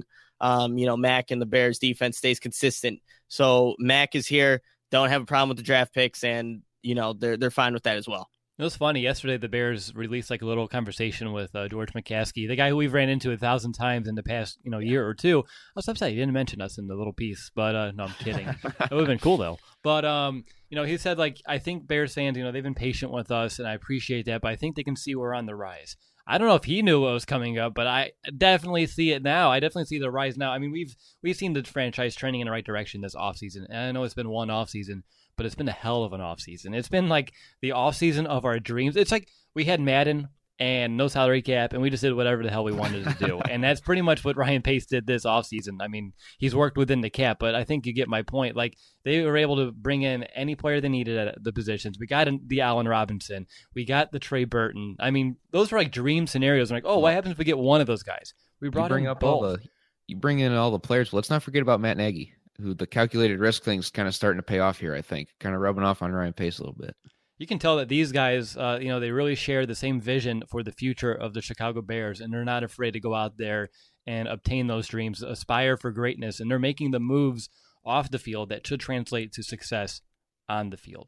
Mack and the Bears defense stays consistent. So Mack is here. Don't have a problem with the draft picks, and, they're fine with that as well. It was funny. Yesterday, the Bears released like a little conversation with George McCaskey, the guy who we've ran into 1,000 times in the past, year or two. I was upset he didn't mention us in the little piece, but no, I'm kidding. It would have been cool though. But he said, like, I think Bears fans, they've been patient with us, and I appreciate that. But I think they can see we're on the rise. I don't know if he knew what was coming up, but I definitely see it now. I definitely see the rise now. I mean, we've seen the franchise trending in the right direction this offseason, and I know it's been one offseason, but it's been a hell of an offseason. It's been like the offseason of our dreams. It's like we had Madden and no salary cap, and we just did whatever the hell we wanted to do. And that's pretty much what Ryan Pace did this offseason. I mean, he's worked within the cap, but I think you get my point. Like, they were able to bring in any player they needed at the positions. We got the Allen Robinson. We got the Trey Burton. I mean, those were like dream scenarios. I'm like, oh, what happens if we get one of those guys? We brought in both. You bring in all the players. Let's not forget about Matt Nagy, who the calculated risk thing's kind of starting to pay off here, I think. Kind of rubbing off on Ryan Pace a little bit. You can tell that these guys, they really share the same vision for the future of the Chicago Bears, and they're not afraid to go out there and obtain those dreams, aspire for greatness, and they're making the moves off the field that should translate to success on the field.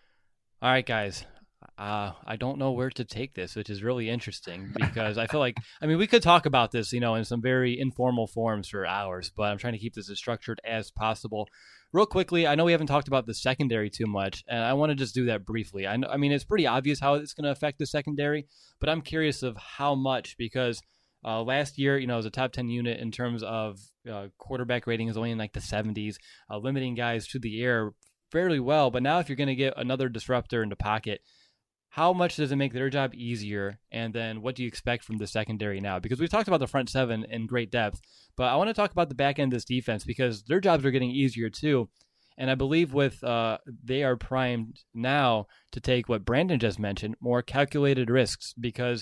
All right, guys. I don't know where to take this, which is really interesting because I feel like, we could talk about this, in some very informal forms for hours, but I'm trying to keep this as structured as possible. Real quickly, I know we haven't talked about the secondary too much, and I want to just do that briefly. I mean, it's pretty obvious how it's going to affect the secondary, but I'm curious of how much, because last year, it was a top 10 unit in terms of quarterback rating is only in like the 70s, limiting guys to the air fairly well. But now if you're going to get another disruptor in the pocket, how much does it make their job easier? And then what do you expect from the secondary now? Because we've talked about the front seven in great depth, but I want to talk about the back end of this defense because their jobs are getting easier too. And I believe they are primed now to take what Brandon just mentioned, more calculated risks, because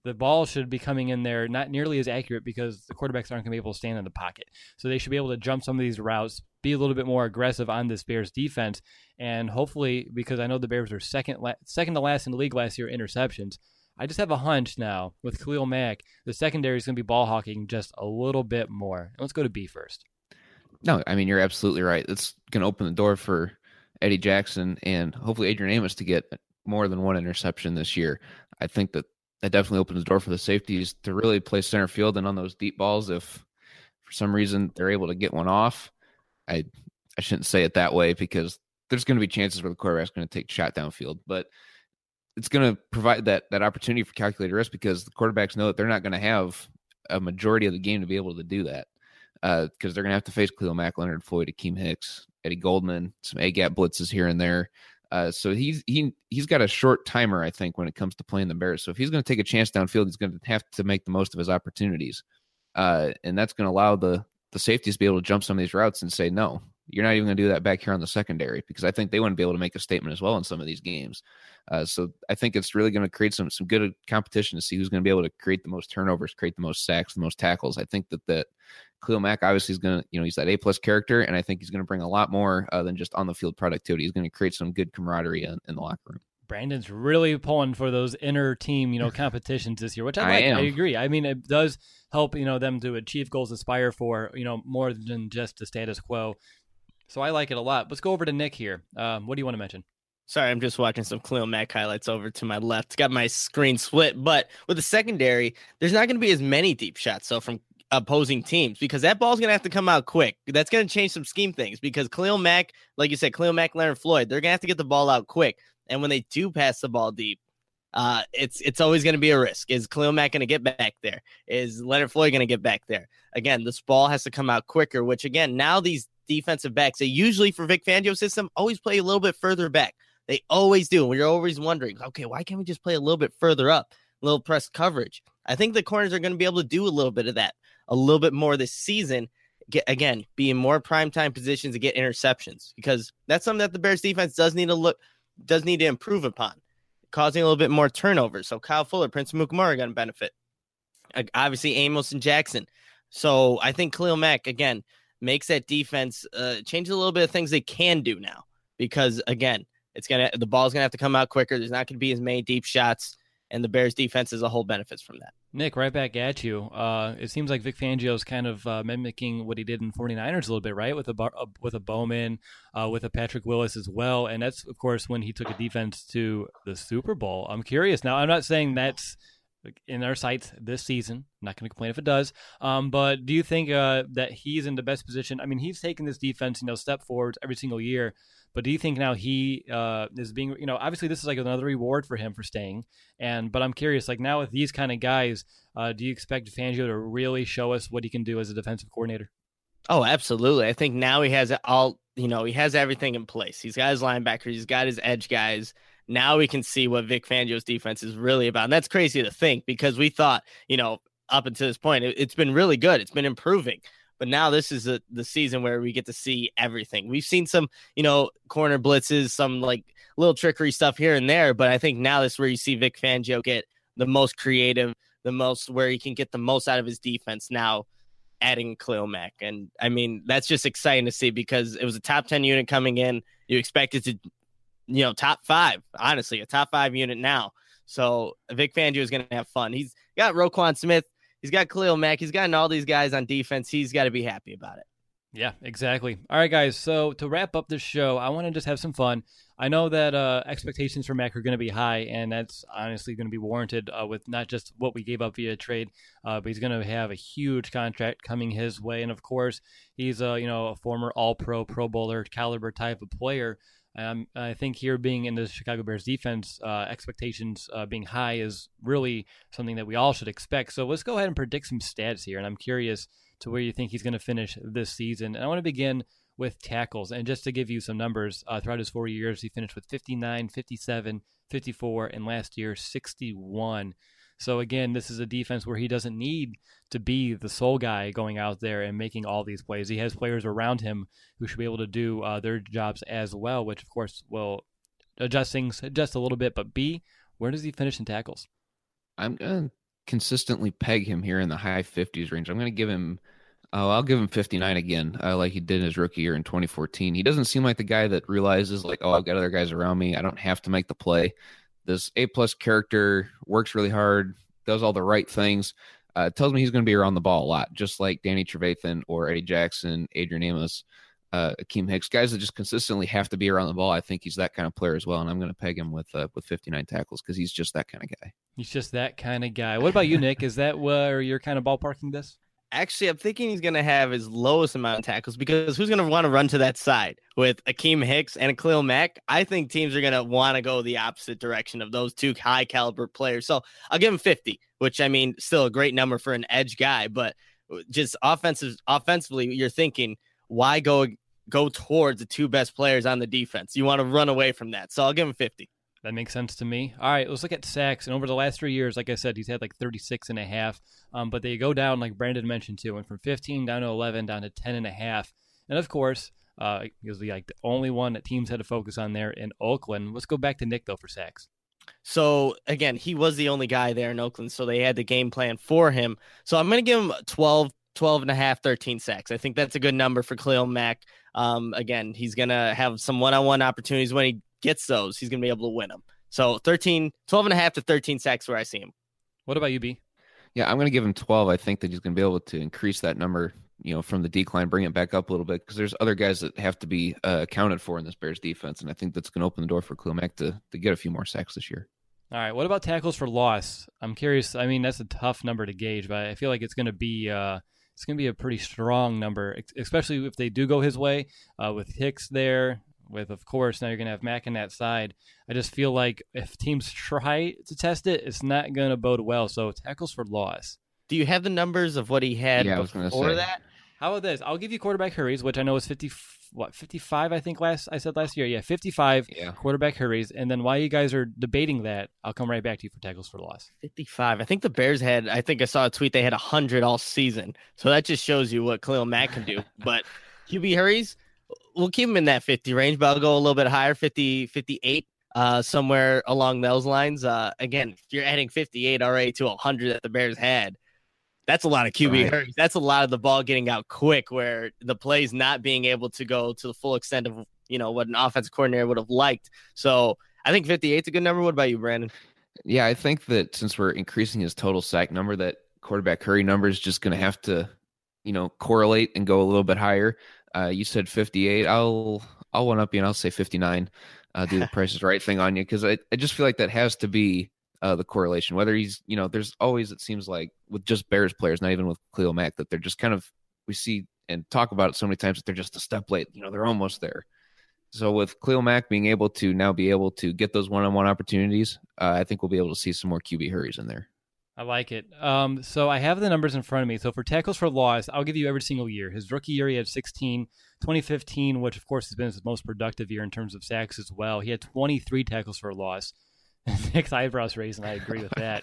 the ball should be coming in there not nearly as accurate because the quarterbacks aren't going to be able to stand in the pocket. So they should be able to jump some of these routes, be a little bit more aggressive on this Bears defense, and hopefully, because I know the Bears were second to last in the league last year in interceptions, I just have a hunch now with Khalil Mack, the secondary is going to be ball hawking just a little bit more. And let's go to B first. No, I mean, you're absolutely right. It's going to open the door for Eddie Jackson and hopefully Adrian Amos to get more than one interception this year. I think that definitely opens the door for the safeties to really play center field, and on those deep balls, if for some reason they're able to get one off, I shouldn't say it that way because there's going to be chances where the quarterback's going to take shot downfield, but it's going to provide that opportunity for calculated risk because the quarterbacks know that they're not going to have a majority of the game to be able to do that because they're going to have to face Khalil Mack, Leonard Floyd, Akeem Hicks, Eddie Goldman, some A-gap blitzes here and there. So he's got a short timer, I think, when it comes to playing the Bears. So if he's going to take a chance downfield, he's going to have to make the most of his opportunities. And that's going to allow the safeties to be able to jump some of these routes and say, no, you're not even going to do that back here on the secondary, because I think they want to be able to make a statement as well in some of these games. So I think it's really going to create some good competition to see who's going to be able to create the most turnovers, create the most sacks, the most tackles. I think that Khalil Mack obviously is going to, he's that A-plus character, and I think he's going to bring a lot more than just on the field productivity. He's going to create some good camaraderie in the locker room. Brandon's really pulling for those inner team, competitions this year, which I like. I agree. I mean, it does help, them to achieve goals, aspire for, more than just the status quo. So I like it a lot. Let's go over to Nick here. What do you want to mention? Sorry, I'm just watching some Khalil Mack highlights over to my left. Got my screen split, but with the secondary, there's not going to be as many deep shots. So from opposing teams, because that ball's going to have to come out quick. That's going to change some scheme things because Khalil Mack, like you said, Khalil Mack, Leonard Floyd, they're going to have to get the ball out quick. And when they do pass the ball deep, it's always going to be a risk. Is Khalil Mack going to get back there? Is Leonard Floyd going to get back there? Again, this ball has to come out quicker, which again, now these defensive backs, they usually for Vic Fangio's system always play a little bit further back. They always do. We're always wondering, okay, why can't we just play a little bit further up, a little press coverage? I think the corners are going to be able to do a little bit of that, a little bit more this season. Be in more primetime positions to get interceptions, because that's something that the Bears defense does need to improve upon, causing a little bit more turnovers. So Kyle Fuller, Prince Amukamara are going to benefit. Obviously, Amos and Jackson. So I think Khalil Mack, again, makes that defense change a little bit of things they can do now, because, again, the ball's going to have to come out quicker. There's not going to be as many deep shots, and the Bears defense as a whole benefits from that. Nick, right back at you. It seems like Vic Fangio's kind of mimicking what he did in 49ers a little bit, right? With a Bowman, with a Patrick Willis as well. And that's, of course, when he took a defense to the Super Bowl. I'm curious. Now, I'm not saying that's in our sights this season. I'm not going to complain if it does. But do you think that he's in the best position? I mean, he's taken this defense, step forwards every single year. But do you think now he is being, obviously this is like another reward for him for staying. But I'm curious, like now with these kind of guys, do you expect Fangio to really show us what he can do as a defensive coordinator? Oh, absolutely. I think now he has he has everything in place. He's got his linebackers, he's got his edge guys. Now we can see what Vic Fangio's defense is really about. And that's crazy to think, because we thought, up until this point, it's been really good. It's been improving. But now this is the season where we get to see everything. We've seen some, corner blitzes, some like little trickery stuff here and there. But I think now this is where you see Vic Fangio get the most creative, where he can get the most out of his defense now, adding Khalil Mack. And I mean, that's just exciting to see, because it was a top 10 unit coming in. You expect it to, top 5, honestly, a top 5 unit now. So Vic Fangio is going to have fun. He's got Roquan Smith. He's got Khalil Mack. He's gotten all these guys on defense. He's got to be happy about it. Yeah, exactly. All right, guys. So to wrap up this show, I want to just have some fun. I know that expectations for Mack are going to be high, and that's honestly going to be warranted with not just what we gave up via trade, but he's going to have a huge contract coming his way. And of course, he's a former All-Pro, Pro Bowler caliber type of player. I think here being in the Chicago Bears defense, expectations being high is really something that we all should expect. So let's go ahead and predict some stats here. And I'm curious to where you think he's going to finish this season. And I want to begin with tackles. And just to give you some numbers, throughout his 4 years, he finished with 59, 57, 54, and last year 61. So again, this is a defense where he doesn't need to be the sole guy going out there and making all these plays. He has players around him who should be able to do their jobs as well, which of course will adjust things just a little bit. But B, where does he finish in tackles? I'm going to consistently peg him here in the high 50s range. I'm going to give him, I'll give him 59 again, like he did in his rookie year in 2014. He doesn't seem like the guy that realizes like, oh, I've got other guys around me. I don't have to make the play. This A-plus character works really hard, does all the right things. Tells me he's going to be around the ball a lot, just like Danny Trevathan or Eddie Jackson, Adrian Amos, Akeem Hicks, guys that just consistently have to be around the ball. I think he's that kind of player as well, and I'm going to peg him with 59 tackles because he's just that kind of guy. He's just that kind of guy. What about you, Nick? Is that where you're kind of ballparking this? Actually, I'm thinking he's going to have his lowest amount of tackles because who's going to want to run to that side with Akeem Hicks and Khalil Mack? I think teams are going to want to go the opposite direction of those two high caliber players. So I'll give him 50, which I mean, still a great number for an edge guy, but just offensively, you're thinking, why go towards the two best players on the defense? You want to run away from that. So I'll give him 50. That makes sense to me. All right, let's look at sacks. And over the last 3 years, like I said, he's had like 36 and a half. But they go down, like Brandon mentioned too, went from 15 down to 11 down to 10 and a half. And of course, he was like the only one that teams had to focus on there in Oakland. Let's go back to Nick though for sacks. So again, he was the only guy there in Oakland, so they had the game plan for him. So I'm going to give him 12 and a half, 13 sacks. I think that's a good number for Khalil Mack. Again, he's going to have some one-on-one opportunities. When he gets those, he's going to be able to win them. So 12 and a half to 13 sacks where I see him. What about you, B? Yeah, I'm going to give him 12. I think that he's going to be able to increase that number, from the decline, bring it back up a little bit, because there's other guys that have to be accounted for in this Bears defense, and I think that's going to open the door for Khalil Mack to get a few more sacks this year. All right, what about tackles for loss? I'm curious. I mean, that's a tough number to gauge, but I feel like it's going to be a pretty strong number, especially if they do go his way with Hicks there. With, of course, now you're going to have Mack on that side. I just feel like if teams try to test it, it's not going to bode well. So tackles for loss. Do you have the numbers of what he had before that? How about this? I'll give you quarterback hurries, which I know is 55, I think I said last year. Yeah, 55 quarterback hurries. And then while you guys are debating that, I'll come right back to you for tackles for loss. 55. I think the Bears I saw a tweet, they had 100 all season. So that just shows you what Khalil Mack can do. But QB hurries, we'll keep him in that 50 range, but I'll go a little bit higher, 50, 58, somewhere along those lines. Again, if you're adding 58 already to 100 that the Bears had, that's a lot of QB hurries. That's a lot of the ball getting out quick, where the play's not being able to go to the full extent of, what an offensive coordinator would have liked. So I think 58 is a good number. What about you, Brandon? Yeah, I think that since we're increasing his total sack number, that quarterback hurry number is just going to have to, correlate and go a little bit higher. You said 58. I'll one up you and I'll say 59. Do the Price is Right thing on you, because I just feel like that has to be the correlation. Whether he's, there's always, it seems like with just Bears players, not even with Khalil Mack, that they're just kind of, we see and talk about it so many times that they're just a step late. They're almost there. So with Khalil Mack being able to get those one-on-one opportunities, I think we'll be able to see some more QB hurries in there. I like it. So I have the numbers in front of me. So for tackles for loss, I'll give you every single year. His rookie year, he had 16. 2015, which of course has been his most productive year in terms of sacks as well, he had 23 tackles for loss. Nick's eyebrows raised, and I agree with that.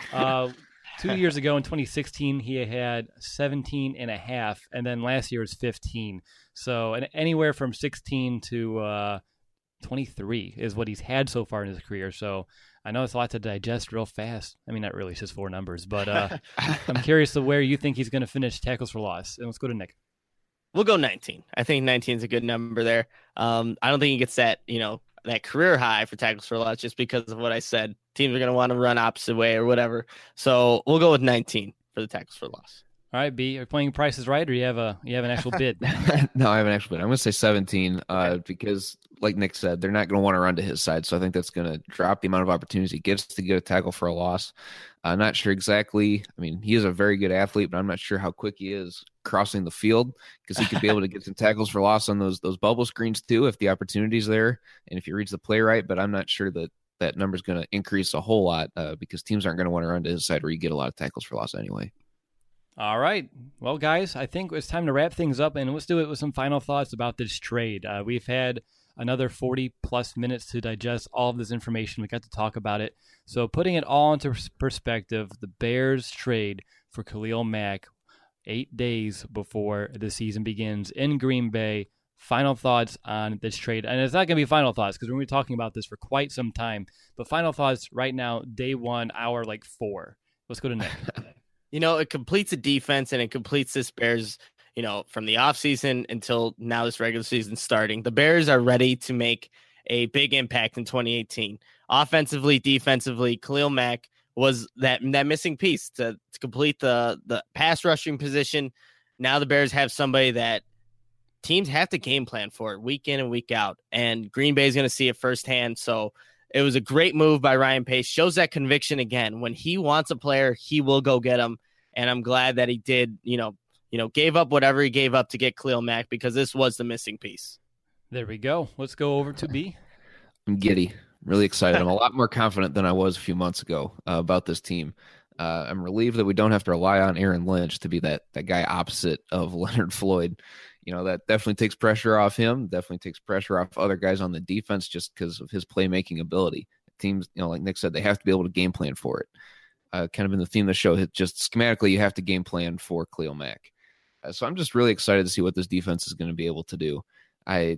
2 years ago in 2016, he had 17 and a half, and then last year was 15. So anywhere from 16 to 23 is what he's had so far in his career. So I know it's a lot to digest real fast. I mean, not really, it's just 4 numbers, but I'm curious to where you think he's going to finish tackles for loss. And let's go to Nick. We'll go 19. I think 19 is a good number there. I don't think he gets that, that career high for tackles for loss just because of what I said. Teams are going to want to run opposite way or whatever. So we'll go with 19 for the tackles for loss. All right, B, are you playing Price is Right, or you have an actual bid? No, I have an actual bid. I'm going to say 17 because, like Nick said, they're not going to want to run to his side. So I think that's going to drop the amount of opportunities he gets to get a tackle for a loss. I'm not sure exactly. I mean, he is a very good athlete, but I'm not sure how quick he is crossing the field, because he could be able to get some tackles for loss on those bubble screens too if the opportunity's there and if he reads the play right. But I'm not sure that number is going to increase a whole lot because teams aren't going to want to run to his side where you get a lot of tackles for loss anyway. All right. Well, guys, I think it's time to wrap things up, and let's do it with some final thoughts about this trade. We've had another 40-plus minutes to digest all of this information. We got to talk about it. So putting it all into perspective, the Bears trade for Khalil Mack 8 days before the season begins in Green Bay. Final thoughts on this trade. And it's not going to be final thoughts because we're going to be talking about this for quite some time. But final thoughts right now, day one, hour 4. Let's go to Nick. It completes a defense and it completes this Bears, from the offseason until now this regular season starting. The Bears are ready to make a big impact in 2018. Offensively, defensively, Khalil Mack was that missing piece to complete the pass rushing position. Now the Bears have somebody that teams have to game plan for week in and week out, and Green Bay is going to see it firsthand. So it was a great move by Ryan Pace. Shows that conviction again. When he wants a player, he will go get him. And I'm glad that he did, gave up whatever he gave up to get Khalil Mack, because this was the missing piece. There we go. Let's go over to B. I'm giddy. Really excited. I'm a lot more confident than I was a few months ago about this team. I'm relieved that we don't have to rely on Aaron Lynch to be that guy opposite of Leonard Floyd. That definitely takes pressure off him, definitely takes pressure off other guys on the defense just because of his playmaking ability. Teams, like Nick said, they have to be able to game plan for it. Kind of been the theme of the show. Just schematically, you have to game plan for Khalil Mack. So I'm just really excited to see what this defense is going to be able to do. I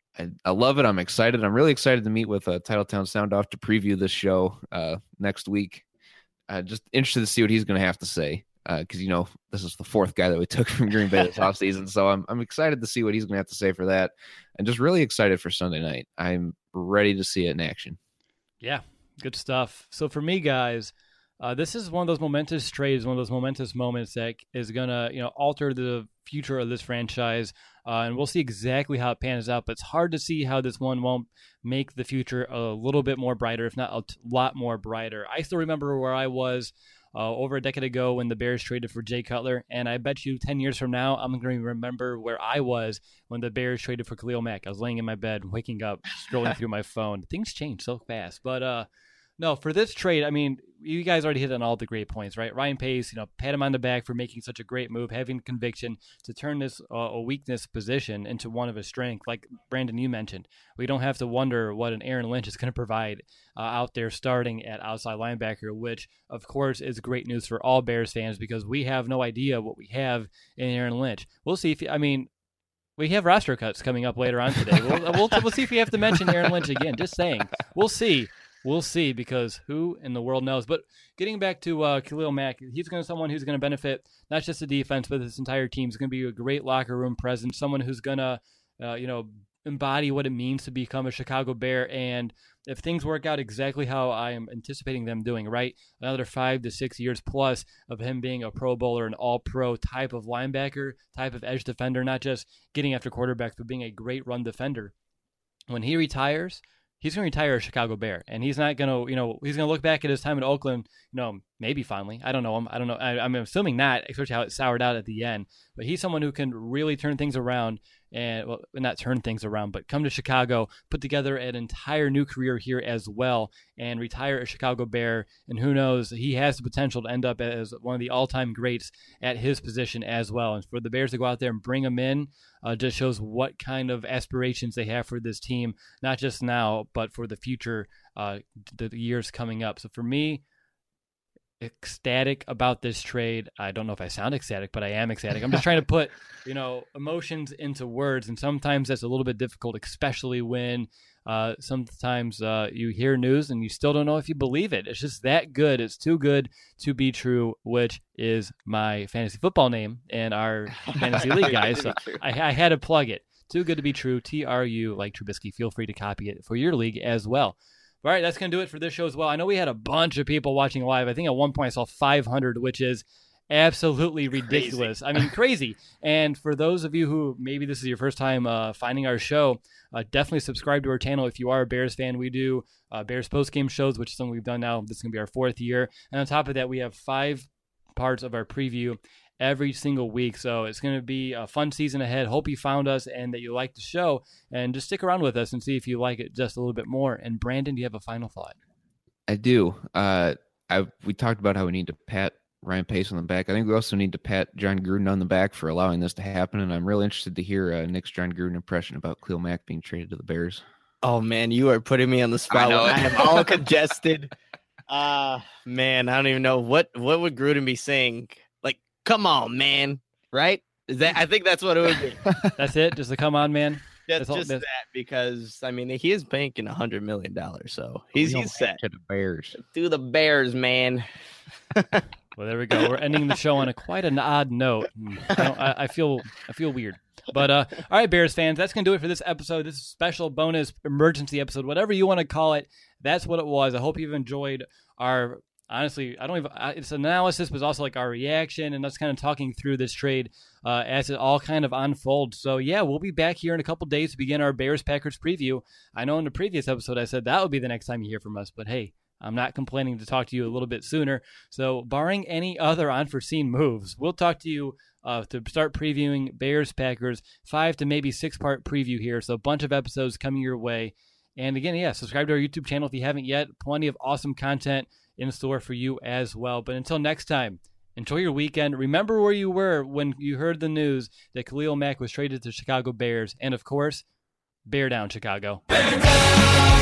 love it. I'm excited. I'm really excited to meet with Titletown Sound Off to preview this show next week. Just interested to see what he's going to have to say. Because this is the fourth guy that we took from Green Bay this offseason, so I'm excited to see what he's going to have to say for that, and just really excited for Sunday night. I'm ready to see it in action. Yeah, good stuff. So for me, guys, this is one of those momentous trades, one of those momentous moments that is going to alter the future of this franchise, and we'll see exactly how it pans out. But it's hard to see how this one won't make the future a little bit more brighter, if not a lot more brighter. I still remember where I was over a decade ago when the Bears traded for Jay Cutler, and I bet you 10 years from now, I'm going to remember where I was when the Bears traded for Khalil Mack. I was laying in my bed, waking up, scrolling through my phone. Things change so fast. But no, for this trade, I mean, you guys already hit on all the great points, right? Ryan Pace, pat him on the back for making such a great move, having conviction to turn this a weakness position into one of his strengths. Like Brandon, you mentioned, we don't have to wonder what an Aaron Lynch is going to provide out there starting at outside linebacker, which, of course, is great news for all Bears fans because we have no idea what we have in Aaron Lynch. We'll see if, we have roster cuts coming up later on today. We'll see if we have to mention Aaron Lynch again. Just saying. We'll see. We'll see, because who in the world knows? But getting back to Khalil Mack, he's going to someone who's going to benefit not just the defense, but this entire team. He's going to be a great locker room presence, someone who's going to, embody what it means to become a Chicago Bear. And if things work out exactly how I am anticipating them doing, right, another 5 to 6 years plus of him being a Pro Bowler, an all-pro type of linebacker, type of edge defender, not just getting after quarterbacks, but being a great run defender. When he retires, he's going to retire a Chicago Bear, and he's not going to, he's going to look back at his time in Oakland, maybe fondly. I don't know him. I don't know. I'm assuming not, especially how it soured out at the end. But he's someone who can really turn things around, and not turn things around, but come to Chicago, put together an entire new career here as well, and retire a Chicago Bear. And who knows, he has the potential to end up as one of the all-time greats at his position as well. And for the Bears to go out there and bring him in just shows what kind of aspirations they have for this team, not just now, but for the future, the years coming up. So for me, ecstatic about this trade. I don't know if I sound ecstatic, but I am ecstatic. I'm just trying to put, emotions into words, and sometimes that's a little bit difficult, especially when sometimes you hear news and you still don't know if you believe it. It's just that good. It's too good to be true, which is my fantasy football name in our fantasy league, guys. So I had to plug it. Too good to be true. TRU, like Trubisky. Feel free to copy it for your league as well. All right, that's going to do it for this show as well. I know we had a bunch of people watching live. I think at one point I saw 500, which is absolutely ridiculous. Crazy. Crazy. And for those of you who maybe this is your first time finding our show, definitely subscribe to our channel if you are a Bears fan. We do Bears post-game shows, which is something we've done now. This is going to be our 4th year. And on top of that, we have 5 parts of our preview every single week. So it's going to be a fun season ahead. Hope you found us and that you like the show, and just stick around with us and see if you like it just a little bit more. And Brandon, do you have a final thought? I do. We talked about how we need to pat Ryan Pace on the back. I think we also need to pat John Gruden on the back for allowing this to happen. And I'm really interested to hear Nick's John Gruden impression about Khalil Mack being traded to the Bears. Oh man, you are putting me on the spot. I am all congested. Man, I don't even know what would Gruden be saying. Come on, man. Right? I think that's what it would be. That's it? Just a come on, man? Just that, because I mean he is banking $100 million, so he's set to the Bears. Do the Bears, man. Well, there we go. We're ending the show on quite an odd note. I feel weird. But all right, Bears fans, that's gonna do it for this episode. This special bonus emergency episode, whatever you want to call it. That's what it was. I hope you've enjoyed our. Honestly, it's analysis, but also like our reaction and us kind of talking through this trade as it all kind of unfolds. So yeah, we'll be back here in a couple days to begin our Bears-Packers preview. I know in the previous episode I said that would be the next time you hear from us, but hey, I'm not complaining to talk to you a little bit sooner. So barring any other unforeseen moves, we'll talk to you to start previewing Bears-Packers, 5 to maybe 6-part preview here. So a bunch of episodes coming your way. And again, yeah, subscribe to our YouTube channel if you haven't yet. Plenty of awesome content in store for you as well. But until next time, enjoy your weekend. Remember where you were when you heard the news that Khalil Mack was traded to Chicago Bears. And of course, bear down, Chicago. Bear down!